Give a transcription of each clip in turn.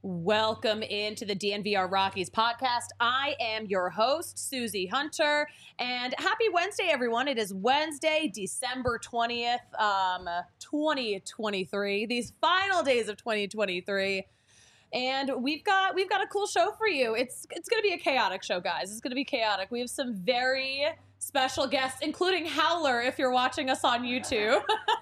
Welcome into the DNVR Rockies podcast. I am your host, Susie Hunter, and happy Wednesday, everyone. It is Wednesday, December 20th, 2023, these final days of 2023. And we've got a cool show for you. It's going to be a chaotic show, guys. It's going to be chaotic. We have some very special guests, including Howler, if you're watching us on YouTube.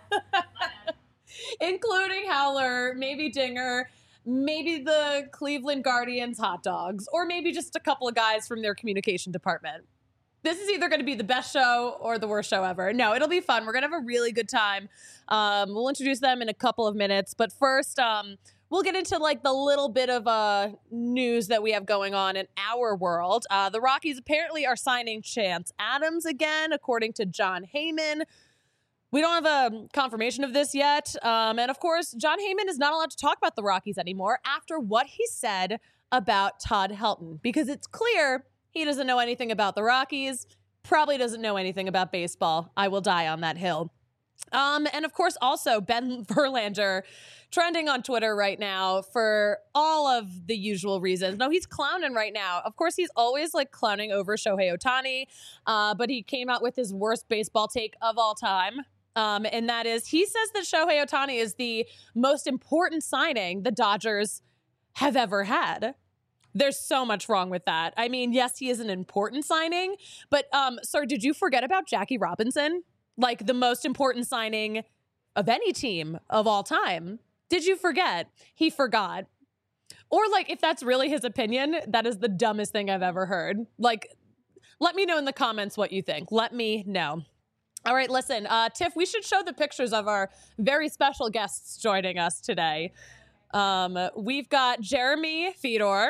Including Howler, maybe Dinger, maybe the Cleveland Guardians hot dogs, or maybe just a couple of guys from their communication department. This is either going to be the best show or the worst show ever. No, it'll be fun. We're going to have a really good time. We'll introduce them in a couple of minutes. But first, we'll get into like the little bit of news that we have going on in our world. The Rockies apparently are signing Chance Adams again, according to Jon Heyman. We don't have a confirmation of this yet. And of course, Jon Heyman is not allowed to talk about the Rockies anymore after what he said about Todd Helton, because it's clear he doesn't know anything about the Rockies, probably doesn't know anything about baseball. I will die on that hill. And of course, also Ben Verlander trending on Twitter right now for all of the usual reasons. No, he's clowning right now. Of course, he's always like clowning over Shohei Ohtani, but he came out with his worst baseball take of all time. And that is, he says that Shohei Ohtani is the most important signing the Dodgers have ever had. There's so much wrong with that. I mean, yes, he is an important signing, but sir, did you forget about Jackie Robinson? Like the most important signing of any team of all time. Did you forget? He forgot. Or like, if that's really his opinion, that is the dumbest thing I've ever heard. Like, let me know in the comments what you think. Let me know. All right, listen, Tiff, we should show the pictures of our very special guests joining us today. We've got Jeremy Fedor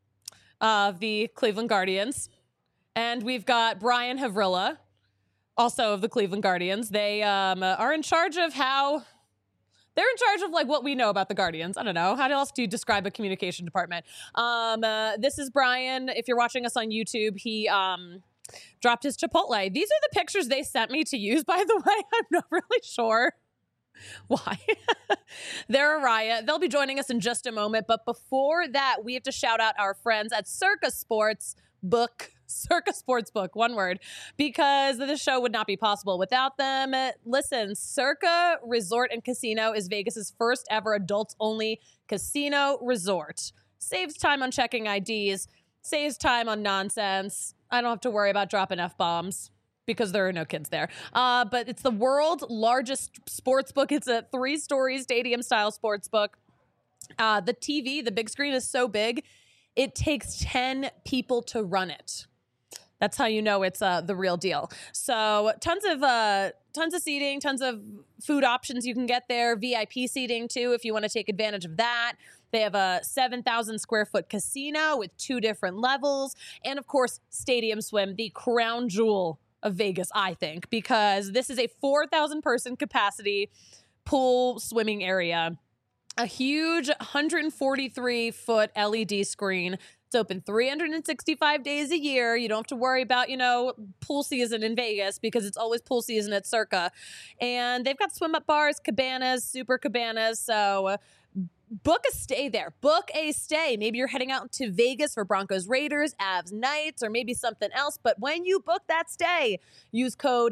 of the Cleveland Guardians, and we've got Brian Havrilla, also of the Cleveland Guardians. They are in charge of they're in charge of like what we know about the Guardians. I don't know. How else do you describe a communication department? This is Brian. If you're watching us on YouTube, he dropped his Chipotle. These are the pictures they sent me to use, by the way. I'm not really sure why. They're a riot. They'll be joining us in just a moment. But before that, we have to shout out our friends at Circa Sportsbook. Circa Sportsbook, one word, because this show would not be possible without them. Listen, Circa Resort and Casino is Vegas's first ever adults-only casino resort. Saves time on checking IDs, saves time on nonsense. I don't have to worry about dropping F-bombs because there are no kids there. But it's the world's largest sports book. It's a 3-story stadium-style sports book. The TV, the big screen is so big, it takes 10 people to run it. That's how you know it's the real deal. So tons of seating, tons of food options you can get there. VIP seating too, if you want to take advantage of that. They have a 7,000 square foot casino with 2 different levels. And of course, Stadium Swim, the crown jewel of Vegas, I think, because this is a 4,000 person capacity pool swimming area. A huge 143 foot LED screen. It's open 365 days a year. You don't have to worry about, pool season in Vegas because it's always pool season at Circa. And they've got swim up bars, cabanas, super cabanas. So book a stay there. Book a stay. Maybe you're heading out to Vegas for Broncos Raiders, Avs Knights, or maybe something else. But when you book that stay, use code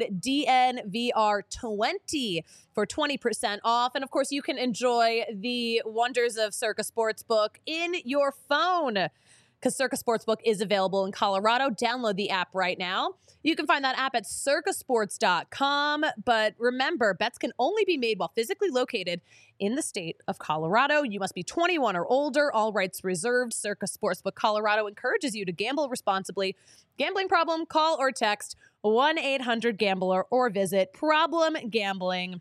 DNVR20 for 20% off. And of course, you can enjoy the wonders of Circa Sportsbook in your phone, because Circa Sportsbook is available in Colorado. Download the app right now. You can find that app at circasports.com. But remember, bets can only be made while physically located in the state of Colorado. You must be 21 or older. All rights reserved. Circa Sportsbook Colorado encourages you to gamble responsibly. Gambling problem? Call or text 1-800-GAMBLER or visit problemgambling.org.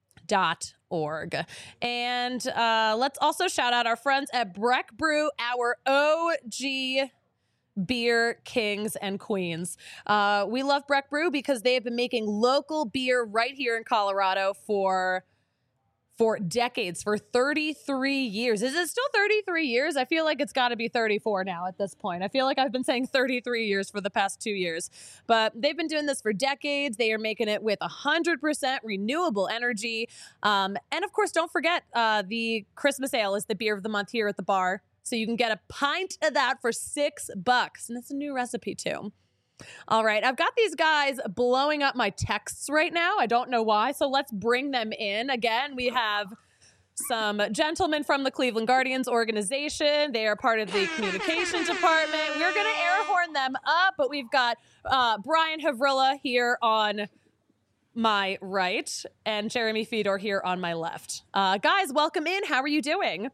And let's also shout out our friends at Breck Brew, our OG beer kings and queens. We love Breck Brew because they have been making local beer right here in Colorado for decades, for 33 years. Is it still 33 years? I feel like it's got to be 34 now at this point. I feel like I've been saying 33 years for the past 2 years. But they've been doing this for decades. They are making it with 100% renewable energy. And of course, don't forget, the Christmas Ale is the beer of the month here at the bar. So you can get a pint of that for $6. And it's a new recipe too. All right. I've got these guys blowing up my texts right now. I don't know why. So let's bring them in. Again, we have some gentlemen from the Cleveland Guardians organization. They are part of the communication department. We're going to air horn them up, but we've got Brian Havrilla here on my right and Jeremy Fedor here on my left. Guys, welcome in. How are you doing?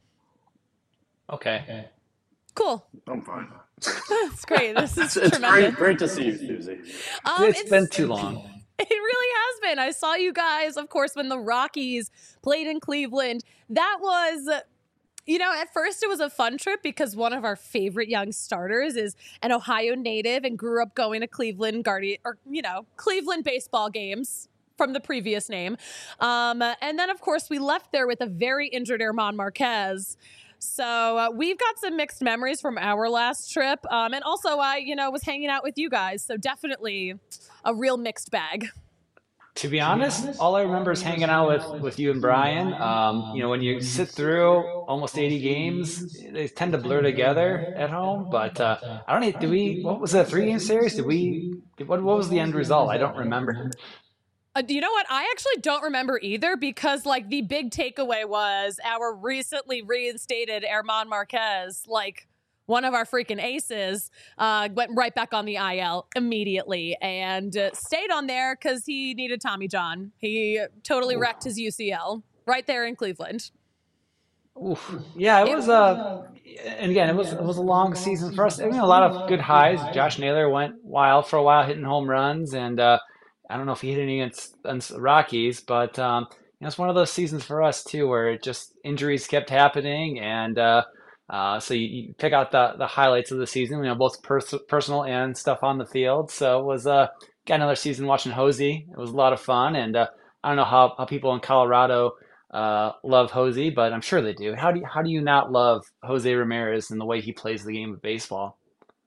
Okay. Cool. I'm fine. That's great. This is It's tremendous. great to see you, Susie. It's been too long. It really has been. I saw you guys, of course, when the Rockies played in Cleveland. That was, at first it was a fun trip because one of our favorite young starters is an Ohio native and grew up going to Cleveland Cleveland baseball games from the previous name. And then, of course, we left there with a very injured German Marquez. So we've got some mixed memories from our last trip. And also I, was hanging out with you guys. So definitely a real mixed bag. To be honest, all I remember is hanging out with you and Brian. When you sit through almost 80 games, they tend to blur together at home. But I don't know, what was that 3-game series? What was the end result? I don't remember. You know what? I actually don't remember either because, the big takeaway was our recently reinstated German Marquez, one of our freaking aces, went right back on the IL immediately and stayed on there because he needed Tommy John. He totally wrecked his UCL right there in Cleveland. Oof. Yeah, it was and again, it was a long season for us. I mean, a lot of good highs. Josh Naylor went wild for a while, hitting home runs, and I don't know if he hit any against the Rockies, but it's one of those seasons for us too, where it just injuries kept happening, and so you pick out the highlights of the season, both personal and stuff on the field. So it was got another season watching Hosey. It was a lot of fun, and I don't know how people in Colorado love Hosey, but I'm sure they do. How do you not love Jose Ramirez and the way he plays the game of baseball?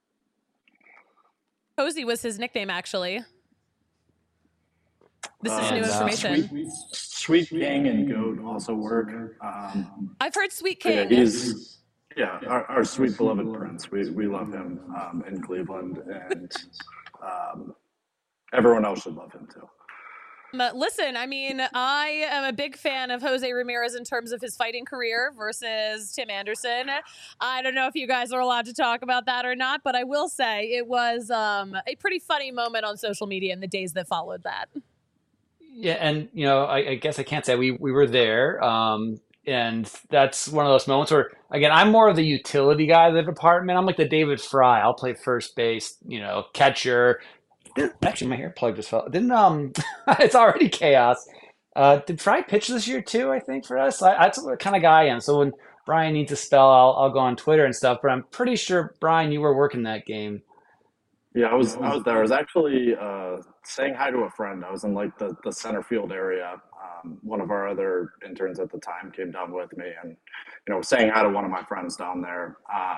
Hosey was his nickname, actually. This is new And information. Sweet King and Goat also work. I've heard Sweet Yeah, King. he's our sweet beloved Prince. We love him in Cleveland, and everyone else should love him too. Listen, I mean, I am a big fan of Jose Ramirez in terms of his fighting career versus Tim Anderson. I don't know if you guys are allowed to talk about that or not, but I will say it was a pretty funny moment on social media in the days that followed that. Yeah, and I guess I can't say we were there, and that's one of those moments where, again, I'm more of the utility guy of the department. I'm like the David Fry. I'll play first base, catcher. Actually, my hair plug just fell. Didn't it's already chaos. Did Fry pitch this year too? I think for us, that's the kind of guy I am. So when Brian needs a spell, I'll go on Twitter and stuff. But I'm pretty sure, Brian, you were working that game. Yeah, I was there. I was actually saying hi to a friend. I was in the center field area. One of our other interns at the time came down with me, and saying hi to one of my friends down there.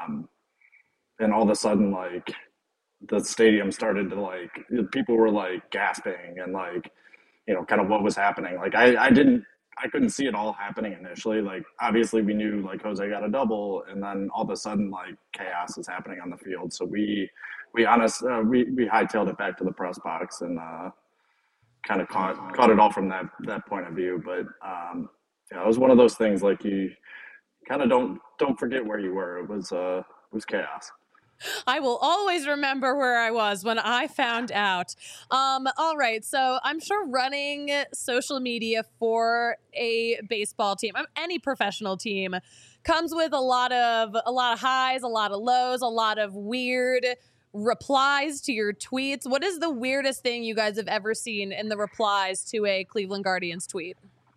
And all of a sudden, the stadium started to people were gasping and kind of what was happening. I couldn't see it all happening initially. Obviously we knew Jose got a double, and then all of a sudden chaos is happening on the field. So we hightailed it back to the press box and kind of caught it all from that point of view. But it was one of those things you kind of don't forget where you were. It was chaos. I will always remember where I was when I found out. All right, so I'm sure running social media for a baseball team, any professional team, comes with a lot of highs, a lot of lows, a lot of weird replies to your tweets. What is the weirdest thing you guys have ever seen in the replies to a Cleveland Guardians tweet?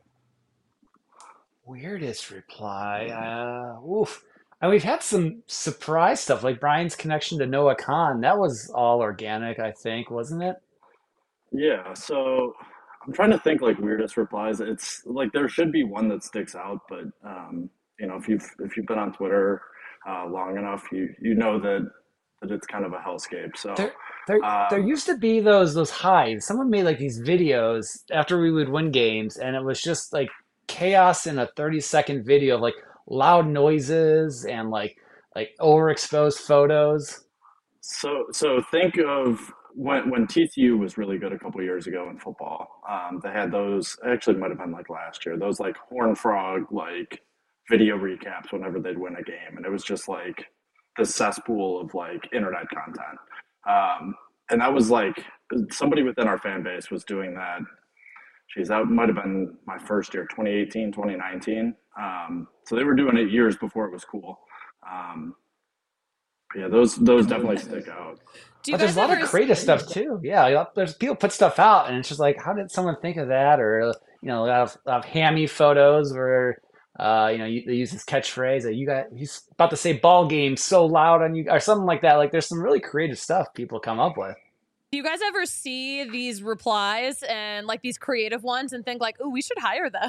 Weirdest reply. Oof. And we've had some surprise stuff, like Brian's connection to Noah Khan. That was all organic, I think, wasn't it? Yeah, so I'm trying to think weirdest replies. It's there should be one that sticks out, but if you've been on Twitter long enough, you know that it's kind of a hellscape. So There, there used to be those highs. Someone made these videos after we would win games, and it was just chaos in a 30-second video of loud noises and like overexposed photos. So think of when TCU was really good a couple years ago in football. They had those. Actually, might have been like last year. Those like Horn Frog like video recaps whenever they'd win a game, and it was just like this cesspool of like internet content. And that was like somebody within our fan base was doing that. Geez, that might have been my first year, 2018, 2019. So they were doing it years before it was cool. Um, yeah, those definitely stick out. Do you But there's guys a lot of ever? creative stuff too. Yeah, there's people put stuff out, and it's just like, how did someone think of that? Or a lot of hammy photos where they use this catchphrase that he's about to say ball game so loud on you or something like that. Like there's some really creative stuff people come up with. Do you guys ever see these replies and like these creative ones and think like, "Oh, we should hire them"?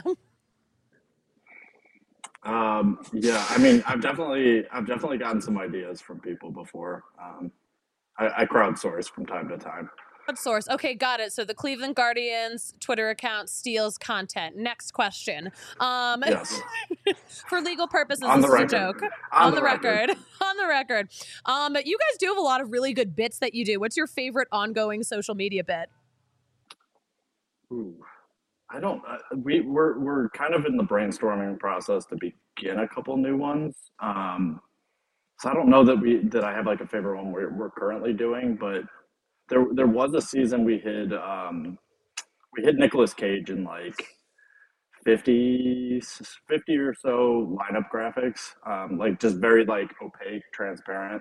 Yeah, I mean, I've definitely gotten some ideas from people before. I crowdsource from time to time. Source. Okay, got it. So the Cleveland Guardians Twitter account steals content. Next question. Um, Yes, for legal purposes, on this the is a record. joke. On On the the record. record. On the record. You guys do have a lot of really good bits that you do. What's your favorite ongoing social media bit? Ooh, I don't. We're kind of in the brainstorming process to begin a couple new ones. So I don't know that I have like a favorite one we're currently doing, but there was a season we hit Nicolas Cage in like 50 or so lineup graphics, like just very like opaque, transparent.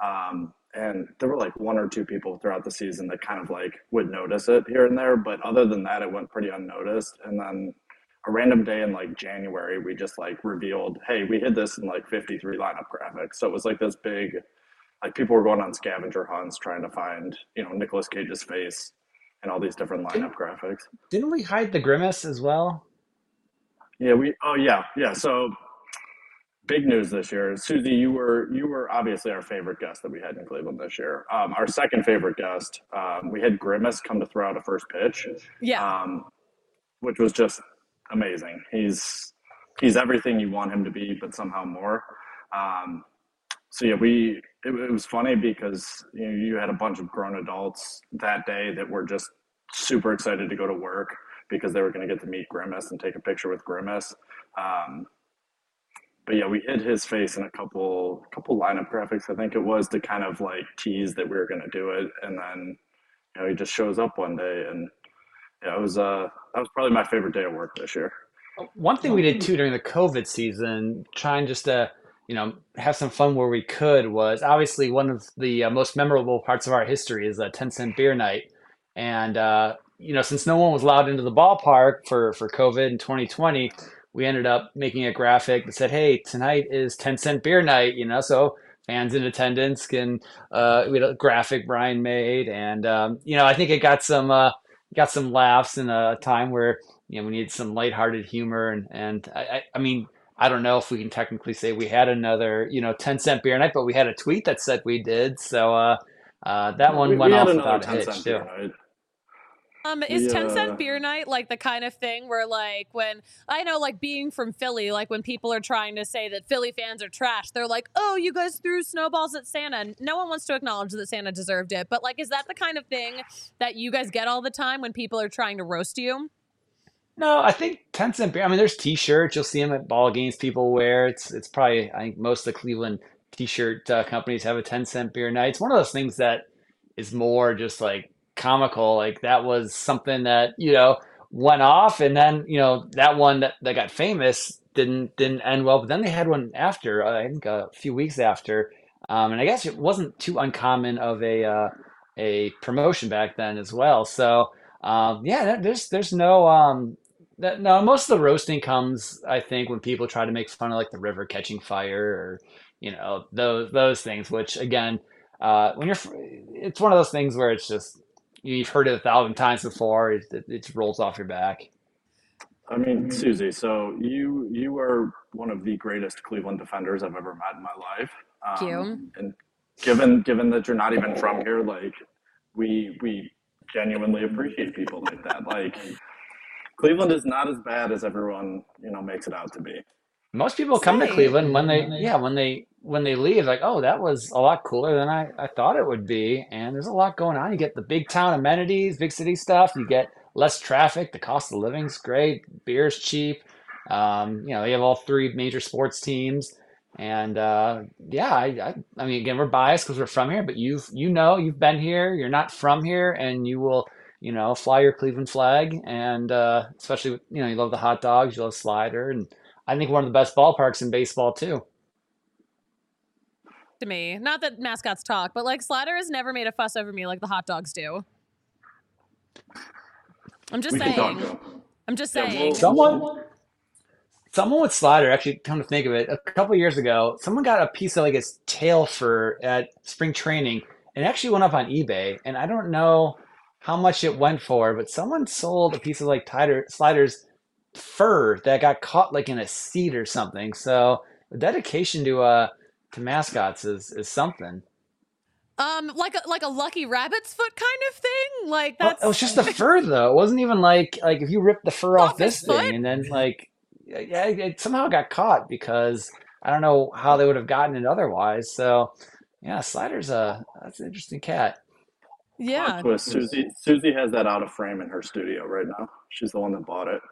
And there were like one or two people throughout the season that kind of like would notice it here and there, but other than that, it went pretty unnoticed. And then a random day in like January, we just like revealed, hey, we hid this in like 53 lineup graphics. So it was like this big, like people were going on scavenger hunts trying to find, Nicolas Cage's face and all these different lineup Didn't graphics. didn't we hide the grimace as well? Yeah, oh yeah, yeah. So big news this year. Susie, you were obviously our favorite guest that we had in Cleveland this year. Our second favorite guest, we had Grimace come to throw out a first pitch, Yeah. um, which was just amazing. He's everything you want him to be, but somehow more. Um, so yeah, it was funny because you had a bunch of grown adults that day that were just super excited to go to work because they were going to get to meet Grimace and take a picture with Grimace. Um, but yeah, we hid his face in a couple lineup graphics, I think it was, to kind of like tease that we were going to do it, and then he just shows up one day, and yeah, it was that was probably my favorite day of work this year. One thing we did too during the COVID season, trying just to, have some fun where we could, was obviously one of the most memorable parts of our history is a 10-cent beer night. And, since no one was allowed into the ballpark for COVID in 2020, we ended up making a graphic that said, hey, tonight is 10-cent beer night, so fans in attendance can, we had a graphic Brian made. And, I think it got some laughs in a time where we need some lighthearted humor, and I mean, I don't know if we can technically say we had another 10-cent beer night, but we had a tweet that said we did, so that We, one we went had off another without a 10 hitch cent too. beer night. Is We 10 cent beer night like the kind of thing where like when I know like being from Philly, like when people are trying to say that Philly fans are trash, they're like, "Oh, you guys threw snowballs at Santa." No one wants to acknowledge that Santa deserved it. But like is that the kind of thing that you guys get all the time when people are trying to roast you? No, I think 10-cent beer. I mean, there's T-shirts. You'll see them at ball games. People wear. It's probably, I think most of the Cleveland T-shirt companies have a 10-cent beer night. It's one of those things that is more just like comical. Like that was something that went off, and then that one that got famous didn't end well. But then they had one after. I think a few weeks after, and I guess it wasn't too uncommon of a promotion back then as well. So yeah, there's no no, most of the roasting comes, I think, when people try to make fun of like the river catching fire or those things. Which again, it's one of those things where it's just you've heard it 1,000 times before. It just rolls off your back. I mean, Susie, so you are one of the greatest Cleveland defenders I've ever met in my life. Thank you. And given that you're not even from here, like we genuinely appreciate people like that. Like Cleveland is not as bad as everyone makes it out to be. Most people come to Say. Cleveland when they when they leave, like, oh, that was a lot cooler than I thought it would be. And there's a lot going on. You get the big town amenities, big city stuff. You get less traffic. The cost of living's great. Beer's cheap. You have all three major sports teams. And yeah, I mean, again, we're biased because we're from here, but you've been here. You're not from here, and you will, fly your Cleveland flag. And especially, you love the hot dogs, you love Slider, and I think one of the best ballparks in baseball too. To me, not that mascots talk, but like Slider has never made a fuss over me like the hot dogs do. I'm just We can saying. talk though. I'm just Yeah, saying. Someone with Slider, actually, come to think of it, a couple years ago, someone got a piece of like his tail fur at spring training and it actually went up on eBay. And I don't know how much it went for, but someone sold a piece of like Slider's fur that got caught like in a seat or something. So the dedication to mascots is something. Like a lucky rabbit's foot kind of thing. Like Well, it was that's just the fur though. It wasn't even like if you rip the fur off off his this thing foot. and then like yeah, it somehow got caught because I don't know how they would have gotten it otherwise. So yeah, that's an interesting cat. Plot Yeah. twist: Susie has that out of frame in her studio right now. She's the one that bought it.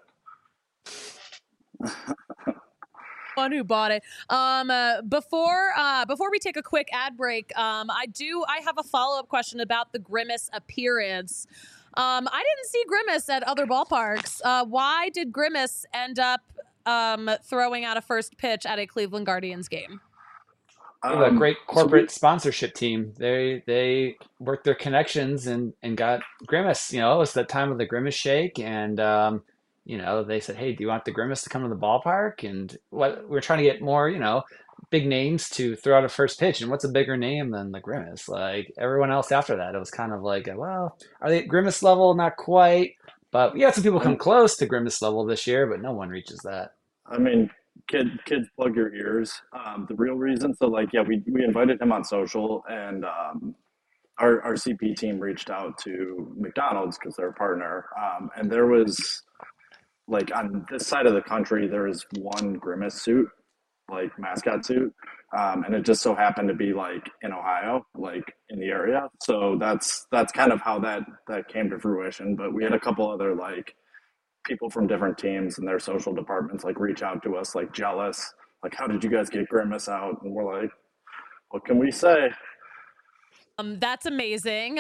One who bought it. Before we take a quick ad break, I have a follow-up question about the Grimace appearance. I didn't see Grimace at other ballparks. Why did Grimace end up throwing out a first pitch at a Cleveland Guardians game? They have a great So we corporate sponsorship team. They worked their connections and got Grimace. It was the time of the Grimace Shake, and they said, "Hey, do you want the Grimace to come to the ballpark?" And what we're trying to get more, big names to throw out a first pitch. And what's a bigger name than the Grimace? Like everyone else after that, it was kind of like, well, are they at Grimace level? Not quite, but we had some people come close to Grimace level this year, but no one reaches that. I mean, kids, plug your ears. The real reason, so like, yeah, we invited him on social, and our CP team reached out to McDonald's because they're a partner, and there was like on this side of the country, there is one Grimace suit, like mascot suit, and it just so happened to be like in Ohio, like in the area. So that's kind of how that came to fruition. But we had a couple other like people from different teams and their social departments like reach out to us like jealous, like how did you guys get Grimace out? And we're like, what can we say? That's amazing.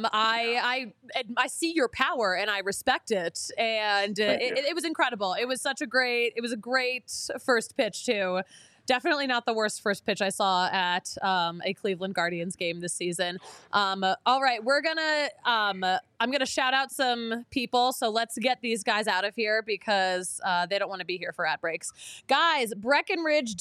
I see your power and I respect it. And Thank you. it was incredible. It was a great first pitch too. Definitely not the worst first pitch I saw at a Cleveland Guardians game this season. All right, I'm gonna shout out some people. So let's get these guys out of here because they don't want to be here for ad breaks. Guys, Breckenridge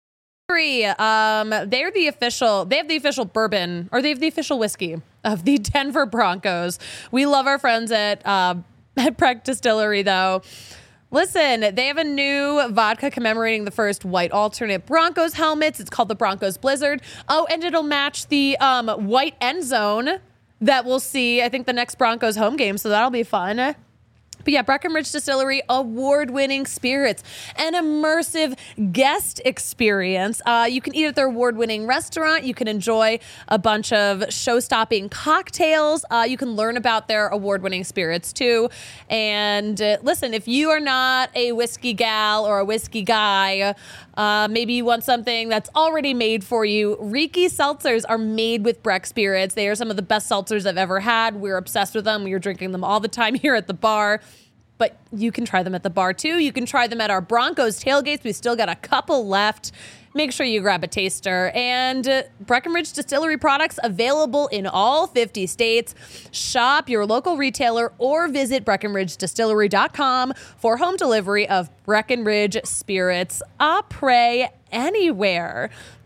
they have the official bourbon, or they have the official whiskey of the Denver Broncos. We love our friends at Breck Distillery, though. Listen, they have a new vodka commemorating the first white alternate Broncos helmets. It's called the Broncos Blizzard. Oh, and it'll match the white end zone that we'll see, I think, the next Broncos home game. So that'll be fun. But yeah, Breckenridge Distillery, award-winning spirits, an immersive guest experience. You can eat at their award-winning restaurant. You can enjoy a bunch of show-stopping cocktails. You can learn about their award-winning spirits too. And listen, if you are not a whiskey gal or a whiskey guy, maybe you want something that's already made for you. Riki seltzers are made with Breck spirits. They are some of the best seltzers I've ever had. We're obsessed with them. We are drinking them all the time here at the bar. But you can try them at the bar too. You can try them at our Broncos tailgates. We still got a couple left. Make sure you grab a taster. And Breckenridge Distillery products available in all 50 states. Shop your local retailer or visit BreckenridgeDistillery.com for home delivery of Breckenridge spirits. Après anywhere.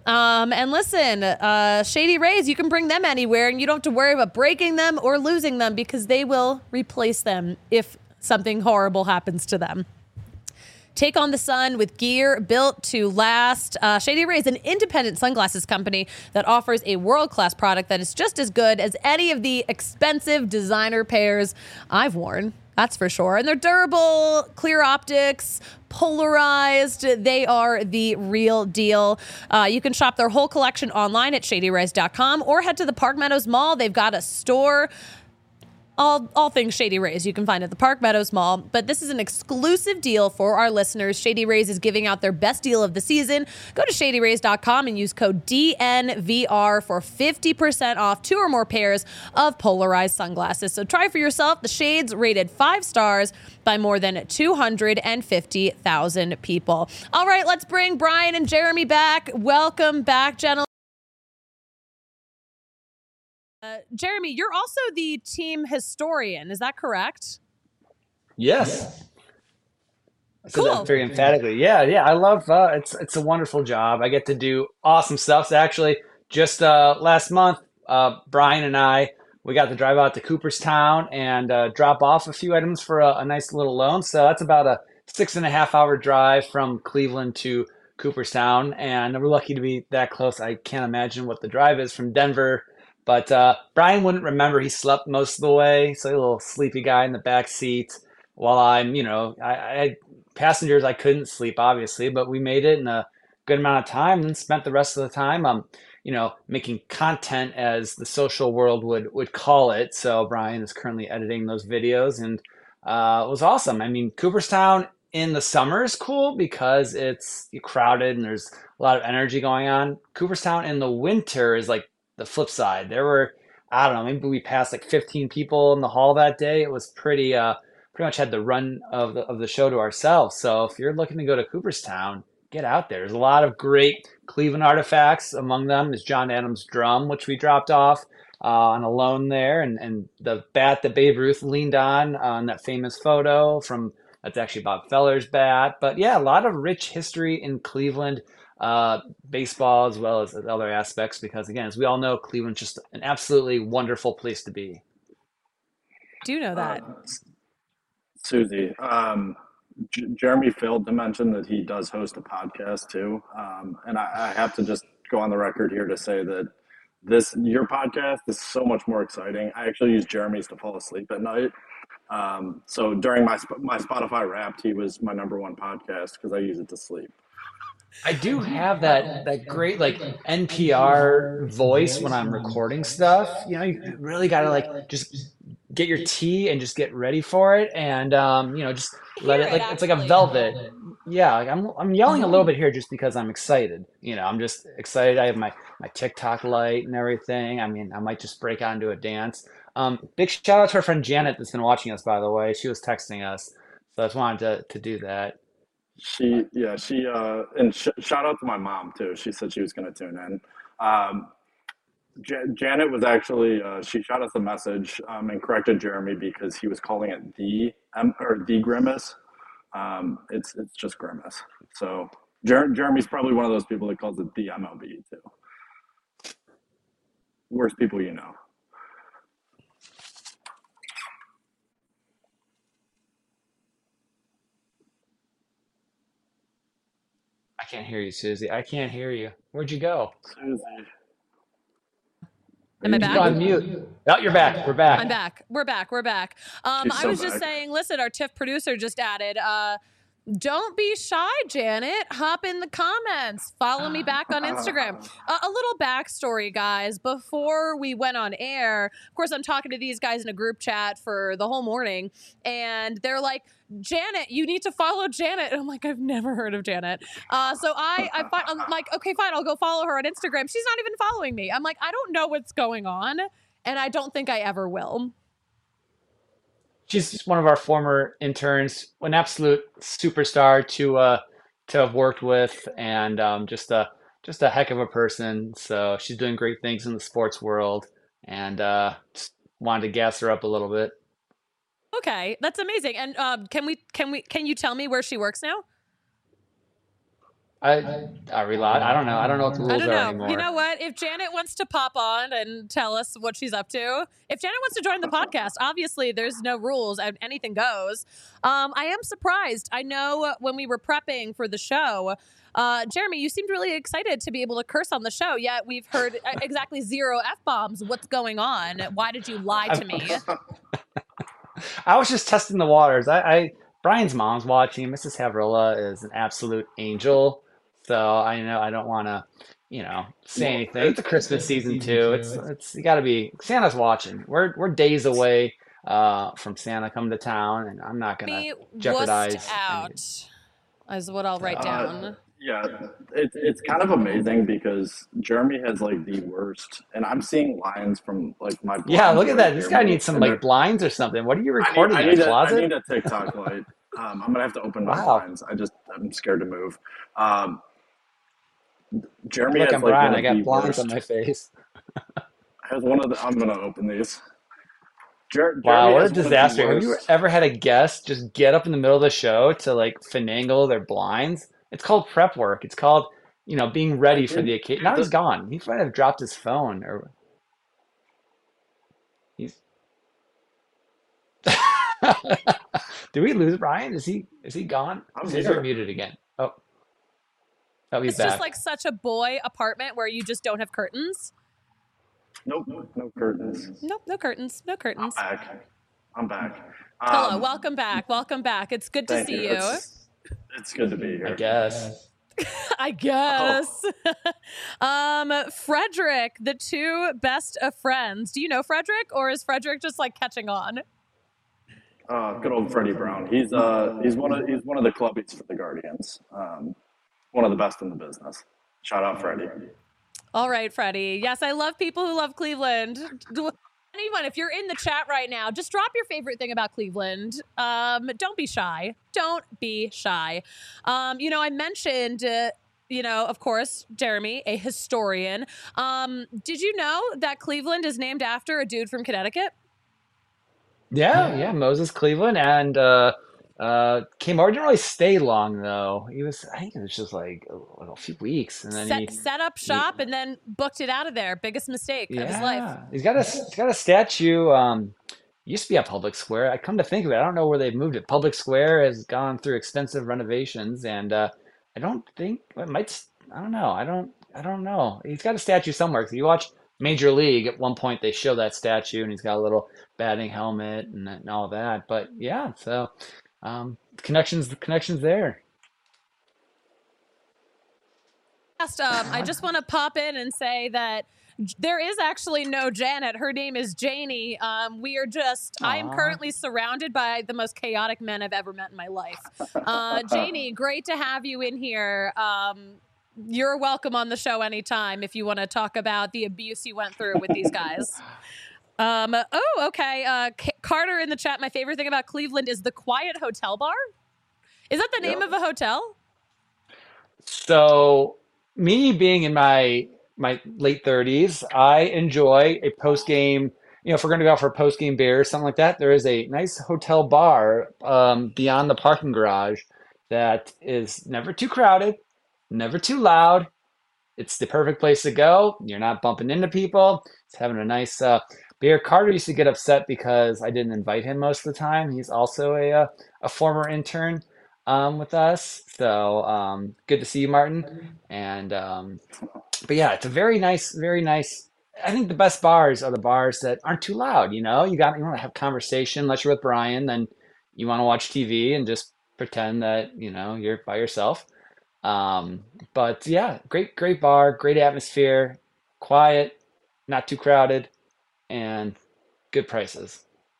And listen, Shady Rays, you can bring them anywhere and you don't have to worry about breaking them or losing them because they will replace them if something horrible happens to them. Take on the sun with gear built to last. Shady Rays, an independent sunglasses company that offers a world-class product that is just as good as any of the expensive designer pairs I've worn. That's for sure. And they're durable, clear optics, polarized. They are the real deal. You can shop their whole collection online at ShadyRays.com or head to the Park Meadows Mall. They've got a store. All things Shady Rays you can find at the Park Meadows Mall. But this is an exclusive deal for our listeners. Shady Rays is giving out their best deal of the season. Go to ShadyRays.com and use code DNVR for 50% off 2 or more pairs of polarized sunglasses. So try for yourself the shades rated 5 stars by more than 250,000 people. All right, let's bring Brian and Jeremy back. Welcome back, gentlemen. Jeremy, you're also the team historian. Is that correct? Yes. I said Cool. that very emphatically. Yeah. I love it's a wonderful job. I get to do awesome stuff. So actually, just last month, Brian and we got to drive out to Cooperstown and drop off a few items for a nice little loan. So that's about a 6.5-hour drive from Cleveland to Cooperstown, and we're lucky to be that close. I can't imagine what the drive is from Denver. But Brian wouldn't remember. He slept most of the way, so a little sleepy guy in the back seat. While I passengers, I couldn't sleep, obviously, but we made it in a good amount of time and spent the rest of the time, making content, as the social world would call it. So Brian is currently editing those videos, and it was awesome. I mean, Cooperstown in the summer is cool because it's crowded and there's a lot of energy going on. Cooperstown in the winter is like the flip side. There were, I don't know, maybe we passed like 15 people in the hall that day. It was pretty much had the run of the show to ourselves. So if you're looking to go to Cooperstown, get out there. There's a lot of great Cleveland artifacts. Among them is John Adams' drum, which we dropped off on a loan there, and the bat that Babe Ruth leaned on that famous photo that's actually Bob Feller's bat. But yeah, a lot of rich history in Cleveland. Baseball as well as other aspects, because again, as we all know, Cleveland's just an absolutely wonderful place to be. Do you know that? Susie, Jeremy failed to mention that he does host a podcast too. And I have to just go on the record here to say that your podcast is so much more exciting. I actually use Jeremy's to fall asleep at night. So during my Spotify Wrapped, he was my #1 podcast because I use it to sleep. I do have that great like NPR voice when I'm recording stuff. You really gotta like just get your tea and just get ready for it, and just let it, like it's like a velvet. Yeah, like I'm yelling a little bit here just because I'm excited. I'm just excited. I have my TikTok light and everything. I mean, I might just break out into a dance. Big shout out to our friend Janet that's been watching us, by the way. She was texting us, so I just wanted to do that. And shout out to my mom too. She said she was going to tune in. Janet was actually she shot us a message and corrected Jeremy because he was calling it the Grimace. It's just Grimace. So Jeremy's probably one of those people that calls it the MLB too. Worst people you know. I can't hear you, Susie. I can't hear you. Where'd you go? Susie. Am I back? On mute. Oh, you're back. We're back. I'm back. We're back. I was just saying, listen, our TIFF producer just added, don't be shy, Janet. Hop in the comments. Follow me back on Instagram. A little backstory, guys. Before we went on air, of course, I'm talking to these guys in a group chat for the whole morning, and they're like, Janet, you need to follow Janet. And I'm like, I've never heard of Janet. So I'm like, okay, fine, I'll go follow her on Instagram. She's not even following me. I'm like, I don't know what's going on, and I don't think I ever will. She's one of our former interns, an absolute superstar to have worked with, and just a heck of a person. So she's doing great things in the sports world, and just wanted to gas her up a little bit. Okay, that's amazing. And can you tell me where she works now? I don't know. I don't know what the rules are anymore. You know what? If Janet wants to pop on and tell us what she's up to, if Janet wants to join the podcast, obviously there's no rules. Anything goes. I am surprised. I know when we were prepping for the show, Jeremy, you seemed really excited to be able to curse on the show, yet we've heard exactly 0 F-bombs. What's going on? Why did you lie to me? I was just testing the waters. Brian's mom's watching. Mrs. Havrilla is an absolute angel. So I know I don't want to, say Well, anything. It's a Christmas season too. It's you got to be Santa's watching. We're days away from Santa coming to town, and I'm not gonna Me wussed jeopardize out any. is what I'll write down. yeah, it's kind of amazing because Jeremy has like the worst, and I'm seeing lines from like my Yeah, blinds look at right that. This near guy me, needs some and like they're blinds or something. What are you I need recording I in a need a I closet? need a TikTok light. I'm gonna have to open my Wow. blinds. I'm scared to move. Um, Jeremy Look, has I'm like Brian. one I of the got blinds on worst. my face. Has one of the. I'm gonna open these. Wow, Jeremy what a has one of the disaster. Have you worst. ever had a guest just get up in the middle of the show to like finagle their blinds? It's called prep work. It's called, being I ready for did the occasion. Now he's the gone. He might have dropped his phone or he's Did we lose Brian? Is he gone? I'm Says you're here. muted again. Oh, oh, he's It's just back. like such a boy apartment where you just don't have curtains. Nope, no curtains. Nope, no curtains, no I'm curtains. back. I'm back. Hello, Um, welcome back, welcome back. It's good to Thank you. see you. It's good to be I here. guess. I Oh, guess. Frederick, the two best of friends. Do you know Frederick, or is Frederick just like catching on? good old Freddie Brown. He's one of the clubbies for the Guardians. One of the best in the business. Shout out Freddie. All right, Freddie. Yes, I love people who love Cleveland. Anyone, if you're in the chat right now, just drop your favorite thing about Cleveland. Don't be shy. Don't be shy. I mentioned, of course, Jeremy, a historian. Did you know that Cleveland is named after a dude from Connecticut? Yeah, yeah, Moses Cleveland and came over. Didn't really stay long though. I think it was just like a few weeks, and then Set up he shop and then booked it out of there. Biggest mistake of his life. yeah, he's got a statue. Used to be at Public Square. I come to think of it, I don't know where they've moved it. Public Square has gone through extensive renovations, and I don't think it might. I don't know. I don't know. He's got a statue somewhere. Because you watch Major League, at one point they show that statue, and he's got a little batting helmet and all that. But yeah, so the connections there. I just want to pop in and say that there is actually no Janet. Her name is Janie. I am Aw. currently surrounded by the most chaotic men I've ever met in my life. Janie, great to have you in here. You're welcome on the show anytime if you want to talk about the abuse you went through with these guys. Okay. Carter in the chat. My favorite thing about Cleveland is the Quiet Hotel Bar. Is that the name Yep. of a hotel? So, me being in my late 30s, I enjoy a post game. If we're going to go out for a post game beer or something like that, there is a nice hotel bar beyond the parking garage that is never too crowded, never too loud. It's the perfect place to go. You're not bumping into people. It's having a nice beer. Carter used to get upset because I didn't invite him most of the time. He's also a former intern with us. So good to see you, Martin. And but yeah, it's a very nice, very nice. I think the best bars are the bars that aren't too loud. You want to have conversation. Unless you're with Brian, then you want to watch TV and just pretend that you're by yourself. Um, but yeah, great bar, great atmosphere, quiet, not too crowded, and good prices.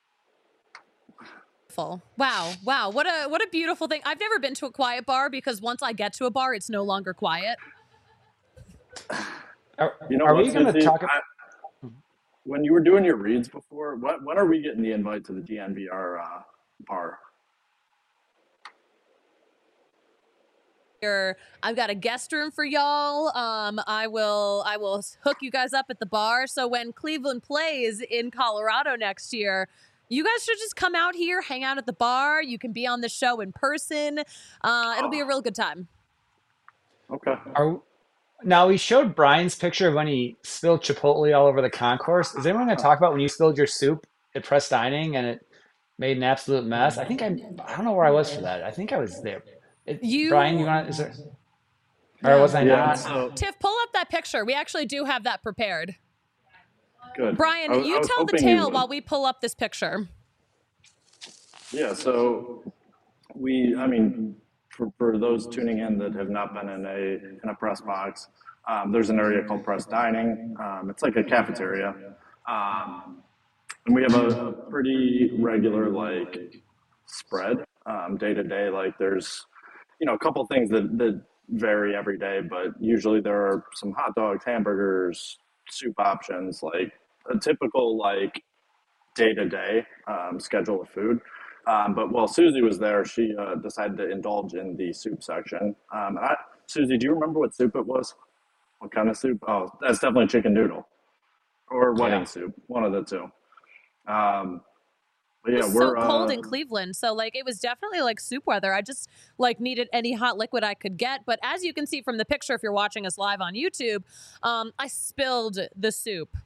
Wow. What a beautiful thing. I've never been to a quiet bar because once I get to a bar, it's no longer quiet. Are, You know are we what's going to Missy? talk? When you were doing your reads before, when are we getting the invite to the DNVR bar? I've got a guest room for y'all. I will hook you guys up at the bar. So when Cleveland plays in Colorado next year, you guys should just come out here, hang out at the bar. You can be on the show in person. It'll be a real good time. Okay. Now we showed Brian's picture of when he spilled Chipotle all over the concourse. Is anyone going to talk about when you spilled your soup at Press Dining and it made an absolute mess? I don't know where I was for that. I think I was there. Brian, is there, or was I Yeah. not? So Tiff, pull up that picture. We actually do have that prepared. good. Brian, I you was tell the hoping you tale would. while we pull up this picture. Yeah, so I mean, for those tuning in that have not been in a press box, there's an area called press dining. It's like a cafeteria, um, and we have a pretty regular like spread day to day. Like there's a couple things that vary every day, but usually there are some hot dogs, hamburgers, soup options, like a typical like day to day schedule of food. But while Susie was there, she decided to indulge in the soup section. Susie, do you remember what soup it was? What kind of soup? Oh, that's definitely chicken noodle or Yeah. wedding soup, one of the two. Um, but It yeah, was so cold in Cleveland, so like it was definitely like soup weather. I just like needed any hot liquid I could get. But as you can see from the picture, if you're watching us live on YouTube, I spilled the soup.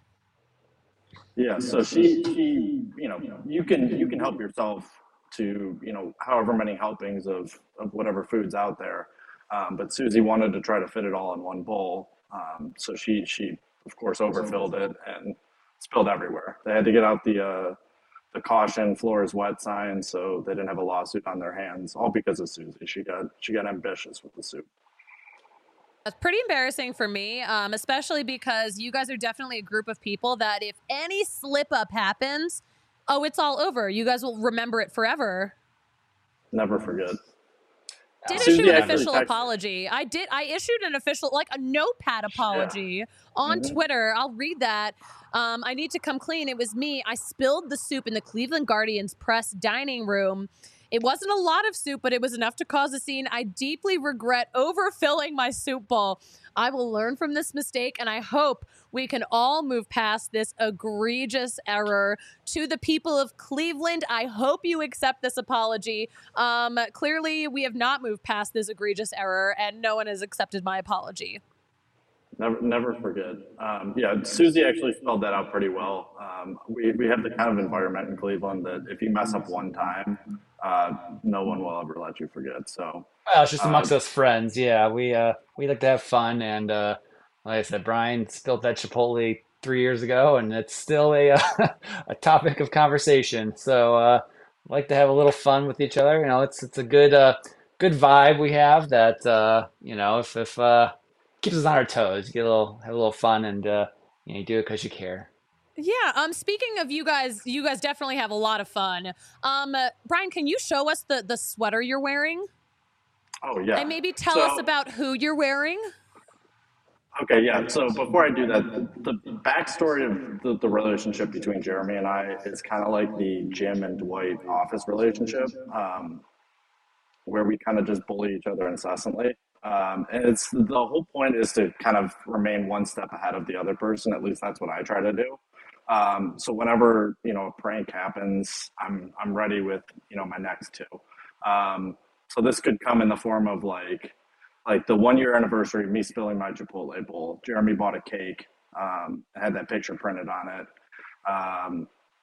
yeah. So she, you can help yourself to however many helpings of whatever food's out there. But Susie wanted to try to fit it all in one bowl, so she of course overfilled it and spilled everywhere. They had to get out the caution floor is wet sign so they didn't have a lawsuit on their hands, all because of Susie. She got ambitious with the soup. That's pretty embarrassing for me, especially because you guys are definitely a group of people that if any slip up happens, oh, it's all over. You guys will remember it forever. Never forget. Did Susie issue an actually official texted. apology. I issued an official, like a notepad apology on Twitter. I'll read that. I need to come clean. It was me. I spilled the soup in the Cleveland Guardians press dining room. It wasn't a lot of soup, but it was enough to cause a scene. I deeply regret overfilling my soup bowl. I will learn from this mistake, and I hope we can all move past this egregious error. To the people of Cleveland, I hope you accept this apology. Clearly, we have not moved past this egregious error, and no one has accepted my apology. Never forget. Yeah, Susie actually spelled that out pretty well. We have the kind of environment in Cleveland that if you mess up one time, no one will ever let you forget. So, Well, it's just uh, amongst us friends. Yeah, we like to have fun, and like I said, Brian spilled that Chipotle 3 years ago, and it's still a a topic of conversation. So like to have a little fun with each other. It's a good vibe we have that if keeps us on our toes. Get a little have a little fun, and you do it because you care. Yeah. Speaking of you guys definitely have a lot of fun. Brian, can you show us the sweater you're wearing, oh yeah. and maybe tell us So about who you're wearing? okay, yeah. So before I do that, the backstory of the relationship between Jeremy and I is kind of like the Jim and Dwight office relationship. Where we kind of just bully each other incessantly. And it's the whole point is to kind of remain one step ahead of the other person. At least that's what I try to do. So whenever a prank happens, I'm ready with my next two. So this could come in the form of like the 1 year anniversary of me spilling my Chipotle bowl. Jeremy bought a cake, had that picture printed on it. Um,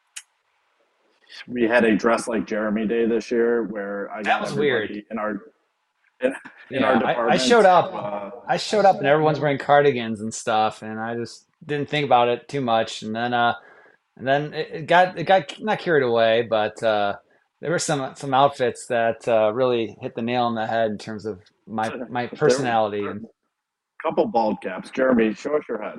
we had a dress like Jeremy day this year where I That got was weird. everybody in our Yeah, I department showed to up. I showed up and everyone's wearing cardigans and stuff, and I just didn't think about it too much. And then it got not carried away, but there were some outfits that really hit the nail on the head in terms of my there personality. were And a couple bald caps. Jeremy, show us your head.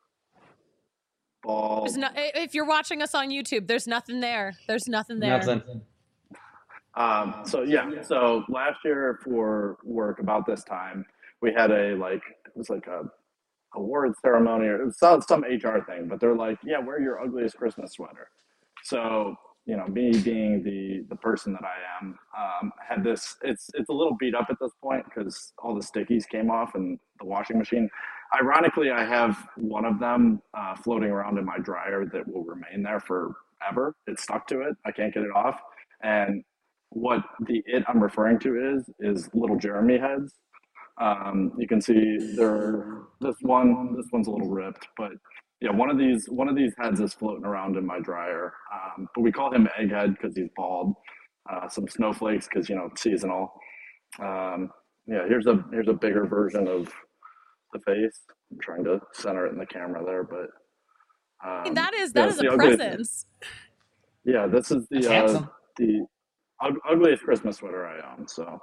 There's Bald. no, if you're watching us on YouTube, there's nothing there. There's nothing there. nothing. So yeah, so last year for work about this time, we had it was like a award ceremony or it was some HR thing, but they're like, yeah, wear your ugliest Christmas sweater. So me being the person that I am, had this. It's a little beat up at this point because all the stickies came off in the washing machine. Ironically, I have one of them floating around in my dryer that will remain there forever. It's stuck to it. I can't get it off. And what the it I'm referring to is little Jeremy heads. You can see this one's a little ripped, but yeah, one of these heads is floating around in my dryer. But we call him Egghead because he's bald. Some snowflakes because it's seasonal. Um, yeah, here's a bigger version of the face. I'm trying to center it in the camera there, but I mean, that yeah, is it's a the ugly. presence. Yeah, this is That's handsome. the ugliest Christmas sweater I own. So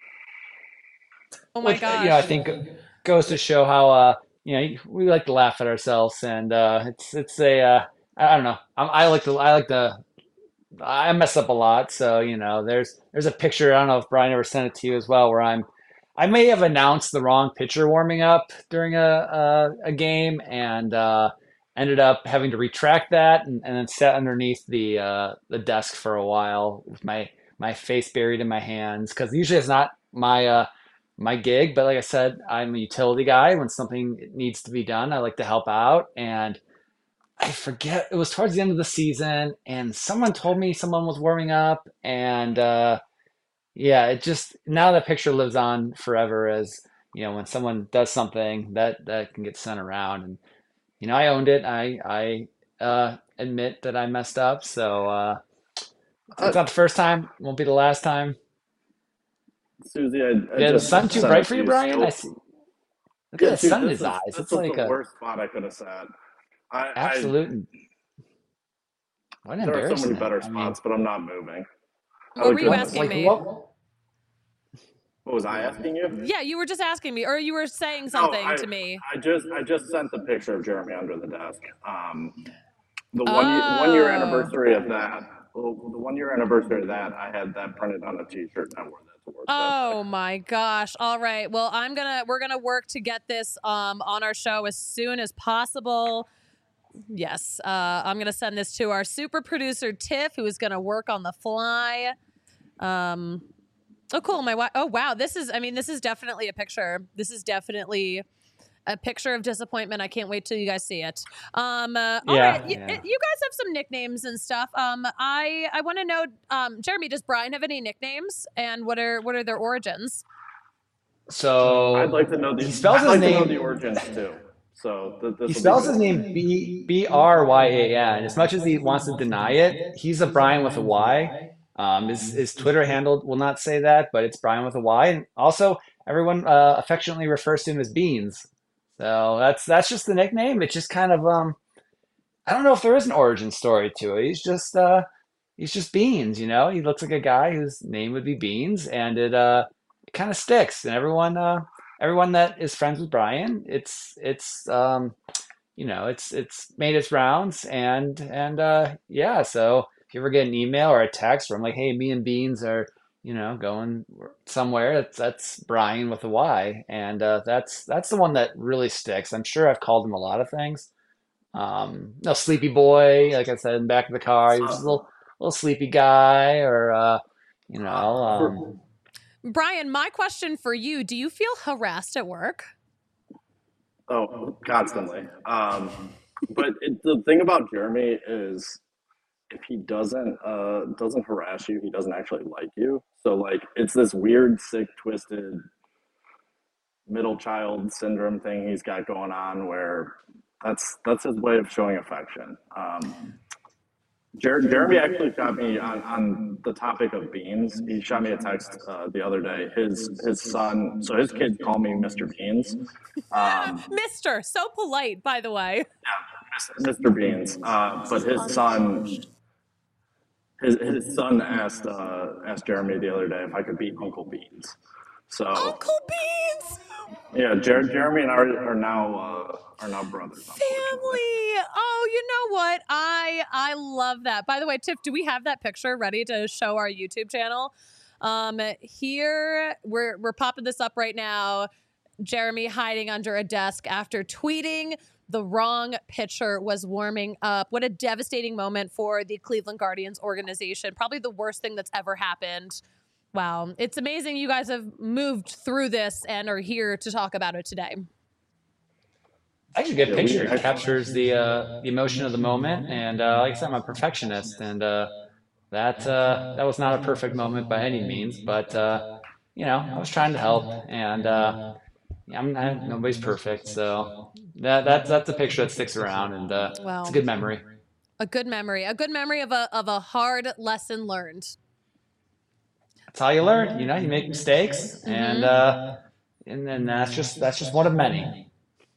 Oh my Which I gosh. think goes to show how we like to laugh at ourselves, and it's a I don't know. I mess up a lot, so there's a picture. I don't know if Brian ever sent it to you as well, where I may have announced the wrong pitcher warming up during a game, and ended up having to retract that, and then sat underneath the desk for a while with my face buried in my hands, because usually it's not my gig, but like I said, I'm a utility guy. When something needs to be done, I like to help out, and I forget, it was towards the end of the season, and someone told me someone was warming up, and yeah, it just now that picture lives on forever as when someone does something that can get sent around, and I owned it. I admit that I messed up, so uh, it's not the first time, won't be the last time. Susie, I Yeah, the just sun too sent bright it for to you, you. Brian? I So see. Look at yeah, the dude, sun in his eyes. this It's is the like a worst spot I could have sat. I absolute. What an There are so many embarrassment. better I mean, spots, but I'm not moving. I What look were you good in what this asking like me? spot. what? What was I asking you? Yeah, you were just asking me, or you were saying No, something to me. I just sent the picture of Jeremy under the desk. The 1 year Oh. anniversary of that. Well, the 1 year anniversary of that, I had that printed on a T-shirt and I wore that to work that day. Oh my gosh. All right. Well, we're gonna work to get this on our show as soon as possible. Yes. I'm gonna send this to our super producer Tiff, who is gonna work on the fly. Um oh cool. Oh wow. This is definitely a picture. This is definitely a picture of disappointment. I can't wait till you guys see it. All right, Yeah, yeah. you guys have some nicknames and stuff. I want to know, Jeremy, does Brian have any nicknames, and what are their origins? I'd like So to know He I'd spells his like to know the name origins too. So this he will be spells good his to know. name Bryan. As much as he wants to deny it, he's a Brian with a Y. His Twitter handle will not say that, but it's Brian with a Y. And also, everyone affectionately refers to him as Beans. So that's just the nickname. It's just kind of I don't know if there is an origin story to it. He's just Beans, He looks like a guy whose name would be Beans, and it kind of sticks. And everyone that is friends with Brian, it's made its rounds, and yeah. So if you ever get an email or a text where I'm like, hey, me and Beans are going somewhere, that's Brian with a Y, and that's the one that really sticks. I'm sure I've called him a lot of things. No, sleepy boy, like I said, in the back of the car, he was just a Uh, little sleepy guy, or you know, for, um, Brian, my question for you: do you feel harassed at work? oh, constantly. But the thing about Jeremy is if he doesn't harass you, he doesn't actually like you. So like it's this weird, sick, twisted middle child syndrome thing he's got going on where that's his way of showing affection. Jeremy actually shot me on the topic of beans. He shot me a text the other day. His son, so his kids call me Mr. Beans. Um, Mister, so polite, by the way. Mr. Beans. But his son asked Jeremy the other day if I could be Uncle Beans. So Uncle Beans, yeah, Jeremy and I are now brothers, unfortunately. family. Oh, you know what? I love that. By the way, Tiff, do we have that picture ready to show our YouTube channel? Here we're popping this up right now. Jeremy hiding under a desk after tweeting the wrong pitcher was warming up. What a devastating moment for the Cleveland Guardians organization. Probably the worst thing that's ever happened. Wow. It's amazing you guys have moved through this and are here to talk about it today. actually a good Yeah, we picture. It actually. captures the emotion of the moment, and like I said, I'm a perfectionist, and that was not a perfect moment by any means, but I was trying to help, and nobody's perfect, so that's a picture that sticks around, and it's a Well, good memory. a good memory. A good memory of a hard lesson learned. That's how you learn. You make mistakes, Mm-hmm. and then that's just one of many.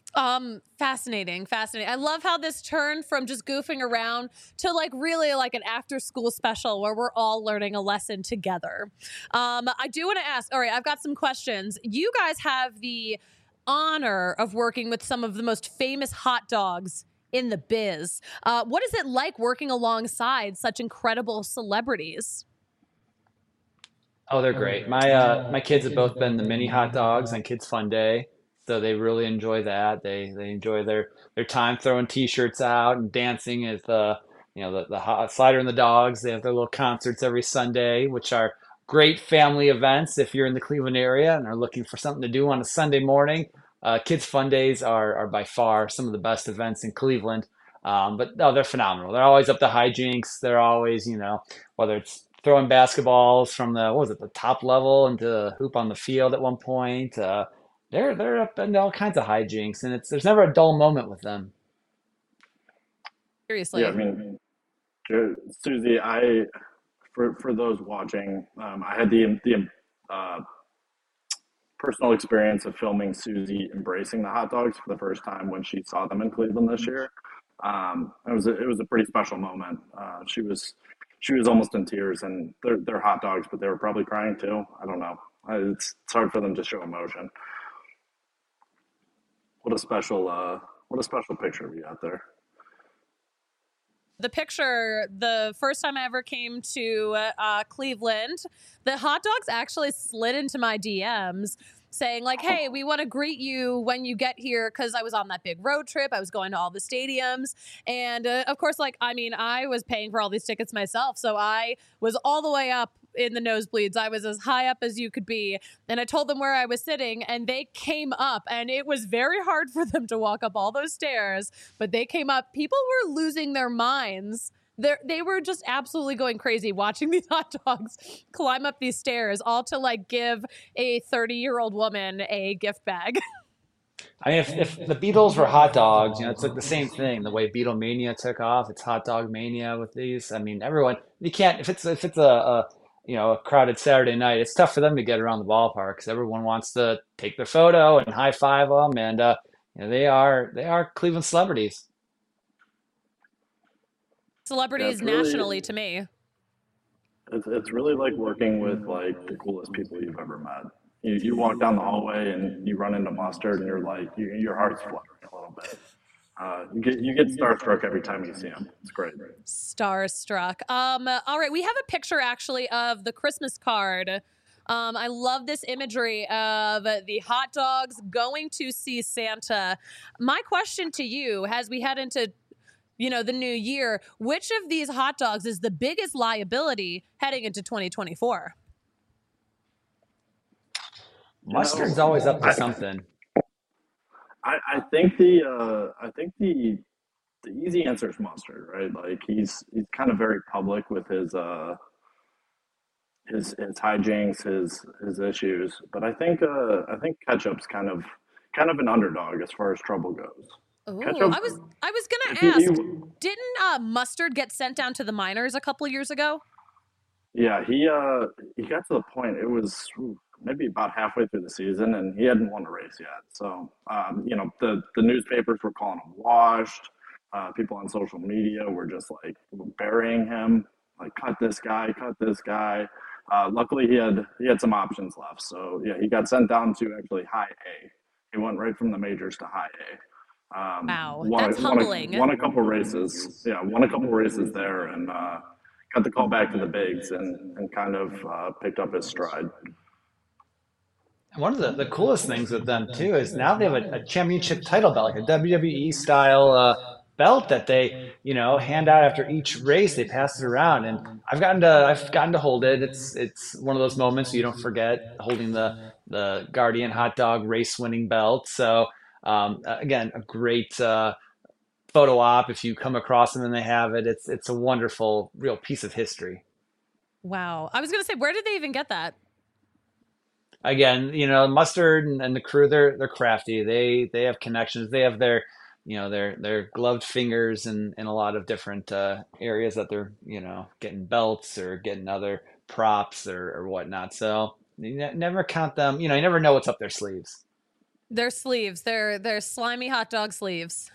Fascinating, fascinating. I love how this turned from just goofing around to like really like an after school special where we're all learning a lesson together. I do want to ask, all right, I've got some questions. You guys have the honor of working with some of the most famous hot dogs in the biz. What is it like working alongside such incredible celebrities? Oh, they're great. My kids have both been the mini hot dogs on Kids Fun Day, so they really enjoy that. They enjoy their time throwing T-shirts out and dancing as the hot slider and the dogs. They have their little concerts every Sunday, which are great family events if you're in the Cleveland area and are looking for something to do on a Sunday morning. Kids Fun Days are by far some of the best events in Cleveland. But no, they're phenomenal. They're always up to hijinks. They're always, whether it's throwing basketballs from the what was it, the top level into the hoop on the field at one point. They're up into all kinds of hijinks, and it's there's never a dull moment with them. Yeah, I Seriously. mean, Susie, I for those watching, I had the uh, personal experience of filming Susie embracing the hot dogs for the first time when she saw them in Cleveland this year. It was a pretty special moment. She was almost in tears, and they're hot dogs, but they were probably crying too. I don't know. It's hard for them to show emotion. What a special picture we got there. The picture, the first time I ever came to Cleveland, the hot dogs actually slid into my DMs saying like, hey, we want to greet you when you get here, because I was on that big road trip. I was going to all the stadiums. And of course, like, I mean, I was paying for all these tickets myself. So I was all the way up in the nosebleeds. I was as high up as you could be. And I told them where I was sitting, and they came up, and it was very hard for them to walk up all those stairs, but they came up. People were losing their minds. They were just absolutely going crazy watching these hot dogs climb up these stairs, all to like give a 30-year-old woman a gift bag. I mean, if the Beatles were hot dogs, it's like the same thing. The way Beatlemania took off, it's hot dog mania with these. I mean, everyone you can't if it's a crowded Saturday night, it's tough for them to get around the ballpark because everyone wants to take their photo and high five them, and they are Cleveland celebrities. Yeah, Celebrities nationally to me. it's really like working with like the coolest people you've ever met. You walk down the hallway and you run into Mustard, and you're like your heart's fluttering a little bit. You get starstruck every time you see him. It's great. Starstruck. All right, we have a picture actually of the Christmas card. I love this imagery of the hot dogs going to see Santa. My question to you, as we head into the new year, which of these hot dogs is the biggest liability heading into 2024? You Mustard's know, always up to I something. I think the easy answer is Mustard, right? Like he's kind of very public with his hijinks, his issues. But I think Ketchup's kind of an underdog as far as trouble goes. Oh, Ketchup, I was if gonna ask, you didn't Mustard get sent down to the minors a couple years ago? yeah, he got to the point. It was maybe about halfway through the season, and he hadn't won a race yet. So the newspapers were calling him washed. People on social media were just like burying him, like cut this guy, cut this guy. Luckily, he had some options left. So yeah, he got sent down to actually high A. He went right from the majors to high A. Wow, that's Won humbling. a couple races. Yeah, won a couple races there, and got the call back to the bigs, and kind of picked up his stride. One of the coolest things with them too is now they have a championship title belt, like a WWE style belt that they, hand out after each race. They pass it around, and I've gotten to hold it. It's one of those moments you don't forget holding the Guardian hot dog race winning belt. So again, a great photo op if you come across them and they have it. It's a wonderful, real piece of history. Wow. I was gonna say, where did they even get that? Again, Mustard and the crew, they're crafty. They have connections. They have their gloved fingers in a lot of different areas that they're getting belts or getting other props or whatnot. So you never count them. You never know what's up their sleeves. Their sleeves. They're slimy hot dog sleeves.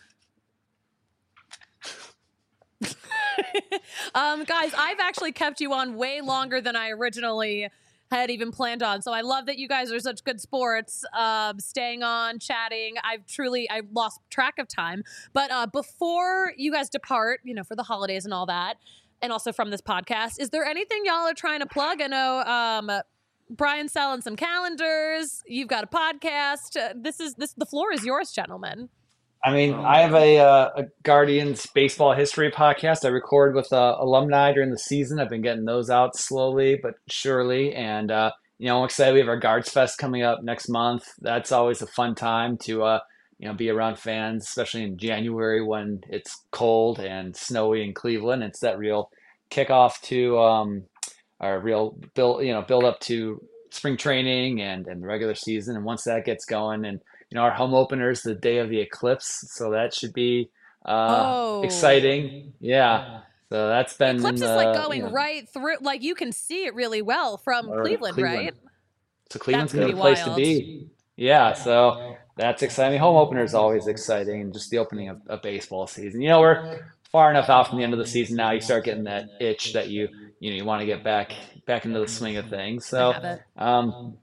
Guys, I've actually kept you on way longer than I originally had even planned on. So I love that you guys are such good sports, staying on, chatting. I've lost track of time. But before you guys depart, for the holidays and all that, and also from this podcast, is there anything y'all are trying to plug? I know Brian's selling some calendars. You've got a podcast. The floor is yours, gentlemen. I mean, I have a Guardians baseball history podcast I record with alumni during the season. I've been getting those out slowly but surely. And, I'm excited. We have our Guards Fest coming up next month. That's always a fun time to, be around fans, especially in January when it's cold and snowy in Cleveland. It's that real kickoff to our real build up to spring training and the regular season. And once that gets going, and our home opener is the day of the eclipse, so that should be exciting. Yeah, so that's been eclipse is like going right through. Like you can see it really well from Cleveland, right? So Cleveland's gonna be a place to be. Yeah, so that's exciting. Home opener is always exciting, and just the opening of baseball season. We're far enough out from the end of the season now. You start getting that itch that you want to get back into the swing of things. So, I'm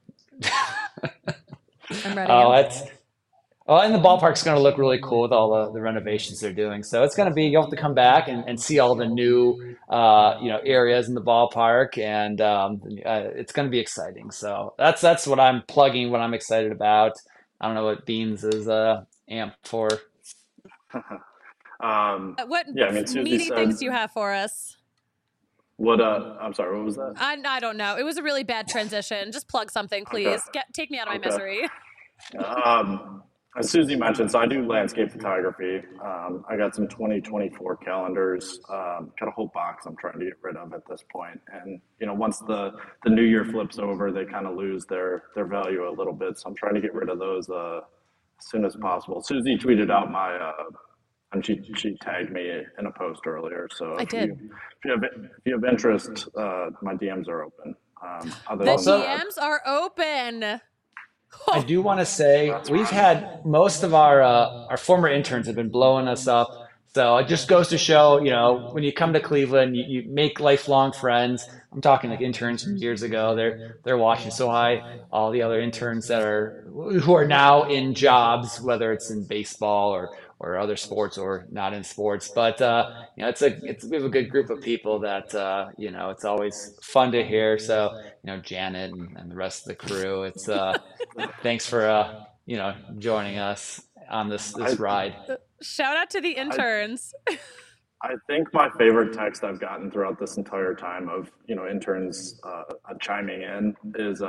ready. And the ballpark's going to look really cool with all the renovations they're doing. So it's going to be, you'll have to come back and see all the new, areas in the ballpark, and it's going to be exciting. So that's what I'm plugging, what I'm excited about. I don't know what Beans is amped for. What Susie meaty said, things do you have for us? I'm sorry, what was that? I don't know. It was a really bad transition. Just plug something, please. Okay. Take me out of my misery. As Susie mentioned, so I do landscape photography. I got some 2024 calendars, got a whole box I'm trying to get rid of at this point. And, once the new year flips over, they kind of lose their value a little bit. So I'm trying to get rid of those as soon as possible. Susie tweeted out and she tagged me in a post earlier. So I did. If you have interest, my DMs are open. The DMs are open. I do want to say we've had most of our former interns have been blowing us up. So it just goes to show, when you come to Cleveland, you make lifelong friends. I'm talking like interns from years ago. They're watching. So all the other interns who are now in jobs, whether it's in baseball or other sports or not in sports. But we have a good group of people that it's always fun to hear. So Janet and the rest of the crew. It's thanks for joining us on this ride. Shout out to the interns. I think my favorite text I've gotten throughout this entire time of interns chiming in is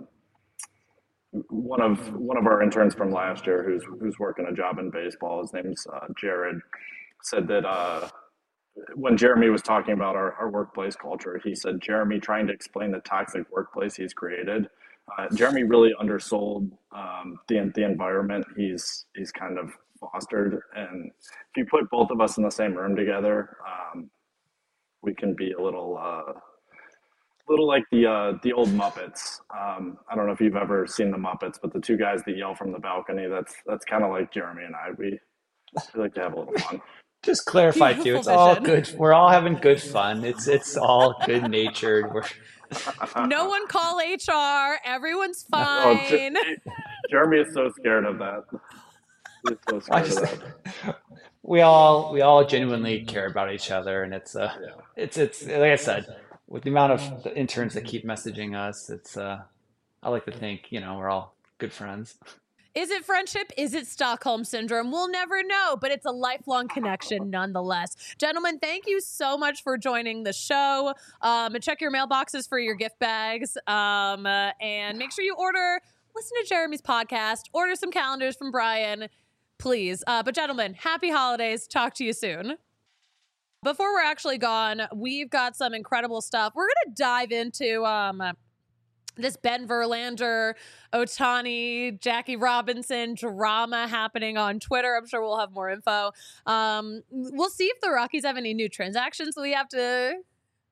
one of our interns from last year who's working a job in baseball. His name's Jared. Said that when Jeremy was talking about our workplace culture, he said Jeremy trying to explain the toxic workplace he's created. Jeremy really undersold the environment he's kind of fostered, and if you put both of us in the same room together, we can be a little like the old Muppets. I don't know if you've ever seen the Muppets, but the two guys that yell from the balcony, that's kind of like Jeremy and I. We like to have a little fun. Just clarify too, it's all good. We're all having good fun. It's all good natured. No one call HR. Everyone's fine. Jeremy is so scared of that. He's so scared of that. We all genuinely care about each other, and it's like I said, with the amount of the interns that keep messaging us, it's I like to think we're all good friends. Is it friendship? Is it Stockholm Syndrome? We'll never know, but it's a lifelong connection nonetheless. Gentlemen, thank you so much for joining the show. Check your mailboxes for your gift bags. And make sure you listen to Jeremy's podcast, order some calendars from Brian, please. But gentlemen, happy holidays. Talk to you soon. Before we're actually gone, we've got some incredible stuff. We're going to dive into this Ben Verlander, Ohtani, Jackie Robinson drama happening on Twitter. I'm sure we'll have more info. We'll see if the Rockies have any new transactions we have to,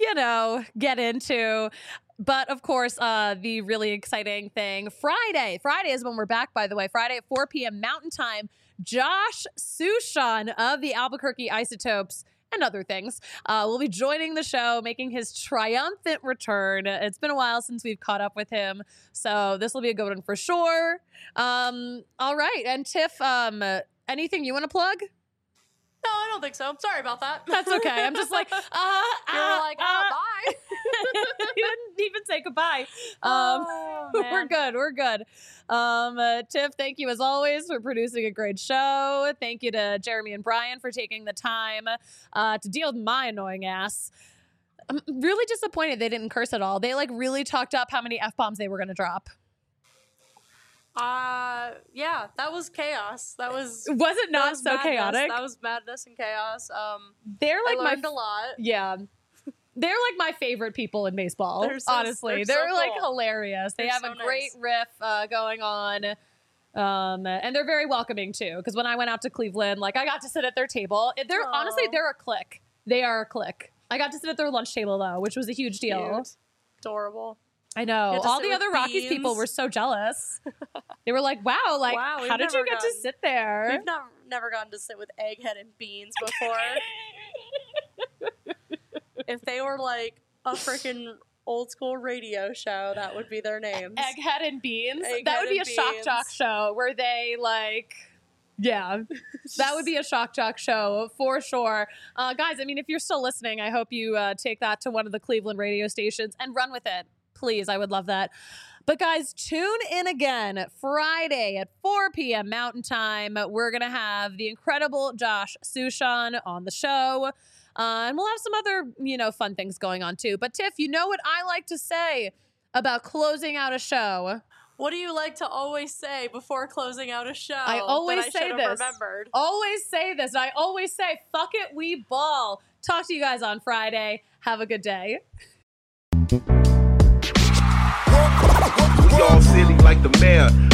get into. But of course, the really exciting thing, Friday is when we're back, by the way. Friday at 4 p.m. Mountain Time, Josh Suchon of the Albuquerque Isotopes and other things will be joining the show, making his triumphant return. It's been a while since we've caught up with him, so this will be a good one for sure. All right, and Tiff, anything you want to plug? No, I don't think so. I'm sorry about that. That's okay. I'm just like, You're like, bye. You didn't even say goodbye. Man. We're good. Tiff, thank you as always for producing a great show. Thank you to Jeremy and Brian for taking the time to deal with my annoying ass. I'm really disappointed they didn't curse at all. They really talked up how many F-bombs they were going to drop. Yeah, that was chaos. Was it not so madness. chaotic? That was madness and chaos. They're I learned a lot. Yeah. They're my favorite people in baseball, honestly. They're so cool. hilarious. They have a great riff going on. And they're very welcoming too. Because when I went out to Cleveland, I got to sit at their table. Honestly, they're a clique. They are a clique. I got to sit at their lunch table though, which was a huge deal. Cute. Adorable. I know. All the other Rockies people were so jealous. They were like, wow, how did you get to sit there? We've never gotten to sit with Egghead and Beans before. If they were a freaking old school radio show, that would be their names. Egghead and Beans? Egghead that would be a and shock Beans. jock show where they yeah, that would be a shock jock show for sure. Guys, I mean, if you're still listening, I hope you take that to one of the Cleveland radio stations and run with it. Please, I would love that. But guys, tune in again Friday at 4 p.m. Mountain Time. We're going to have the incredible Josh Suchon on the show. And we'll have some other, fun things going on too. But Tiff, you know what I like to say about closing out a show? What do you like to always say before closing out a show? I always say this. Remembered? Always say this. I always say, fuck it, we ball. Talk to you guys on Friday. Have a good day. We all silly like the mayor.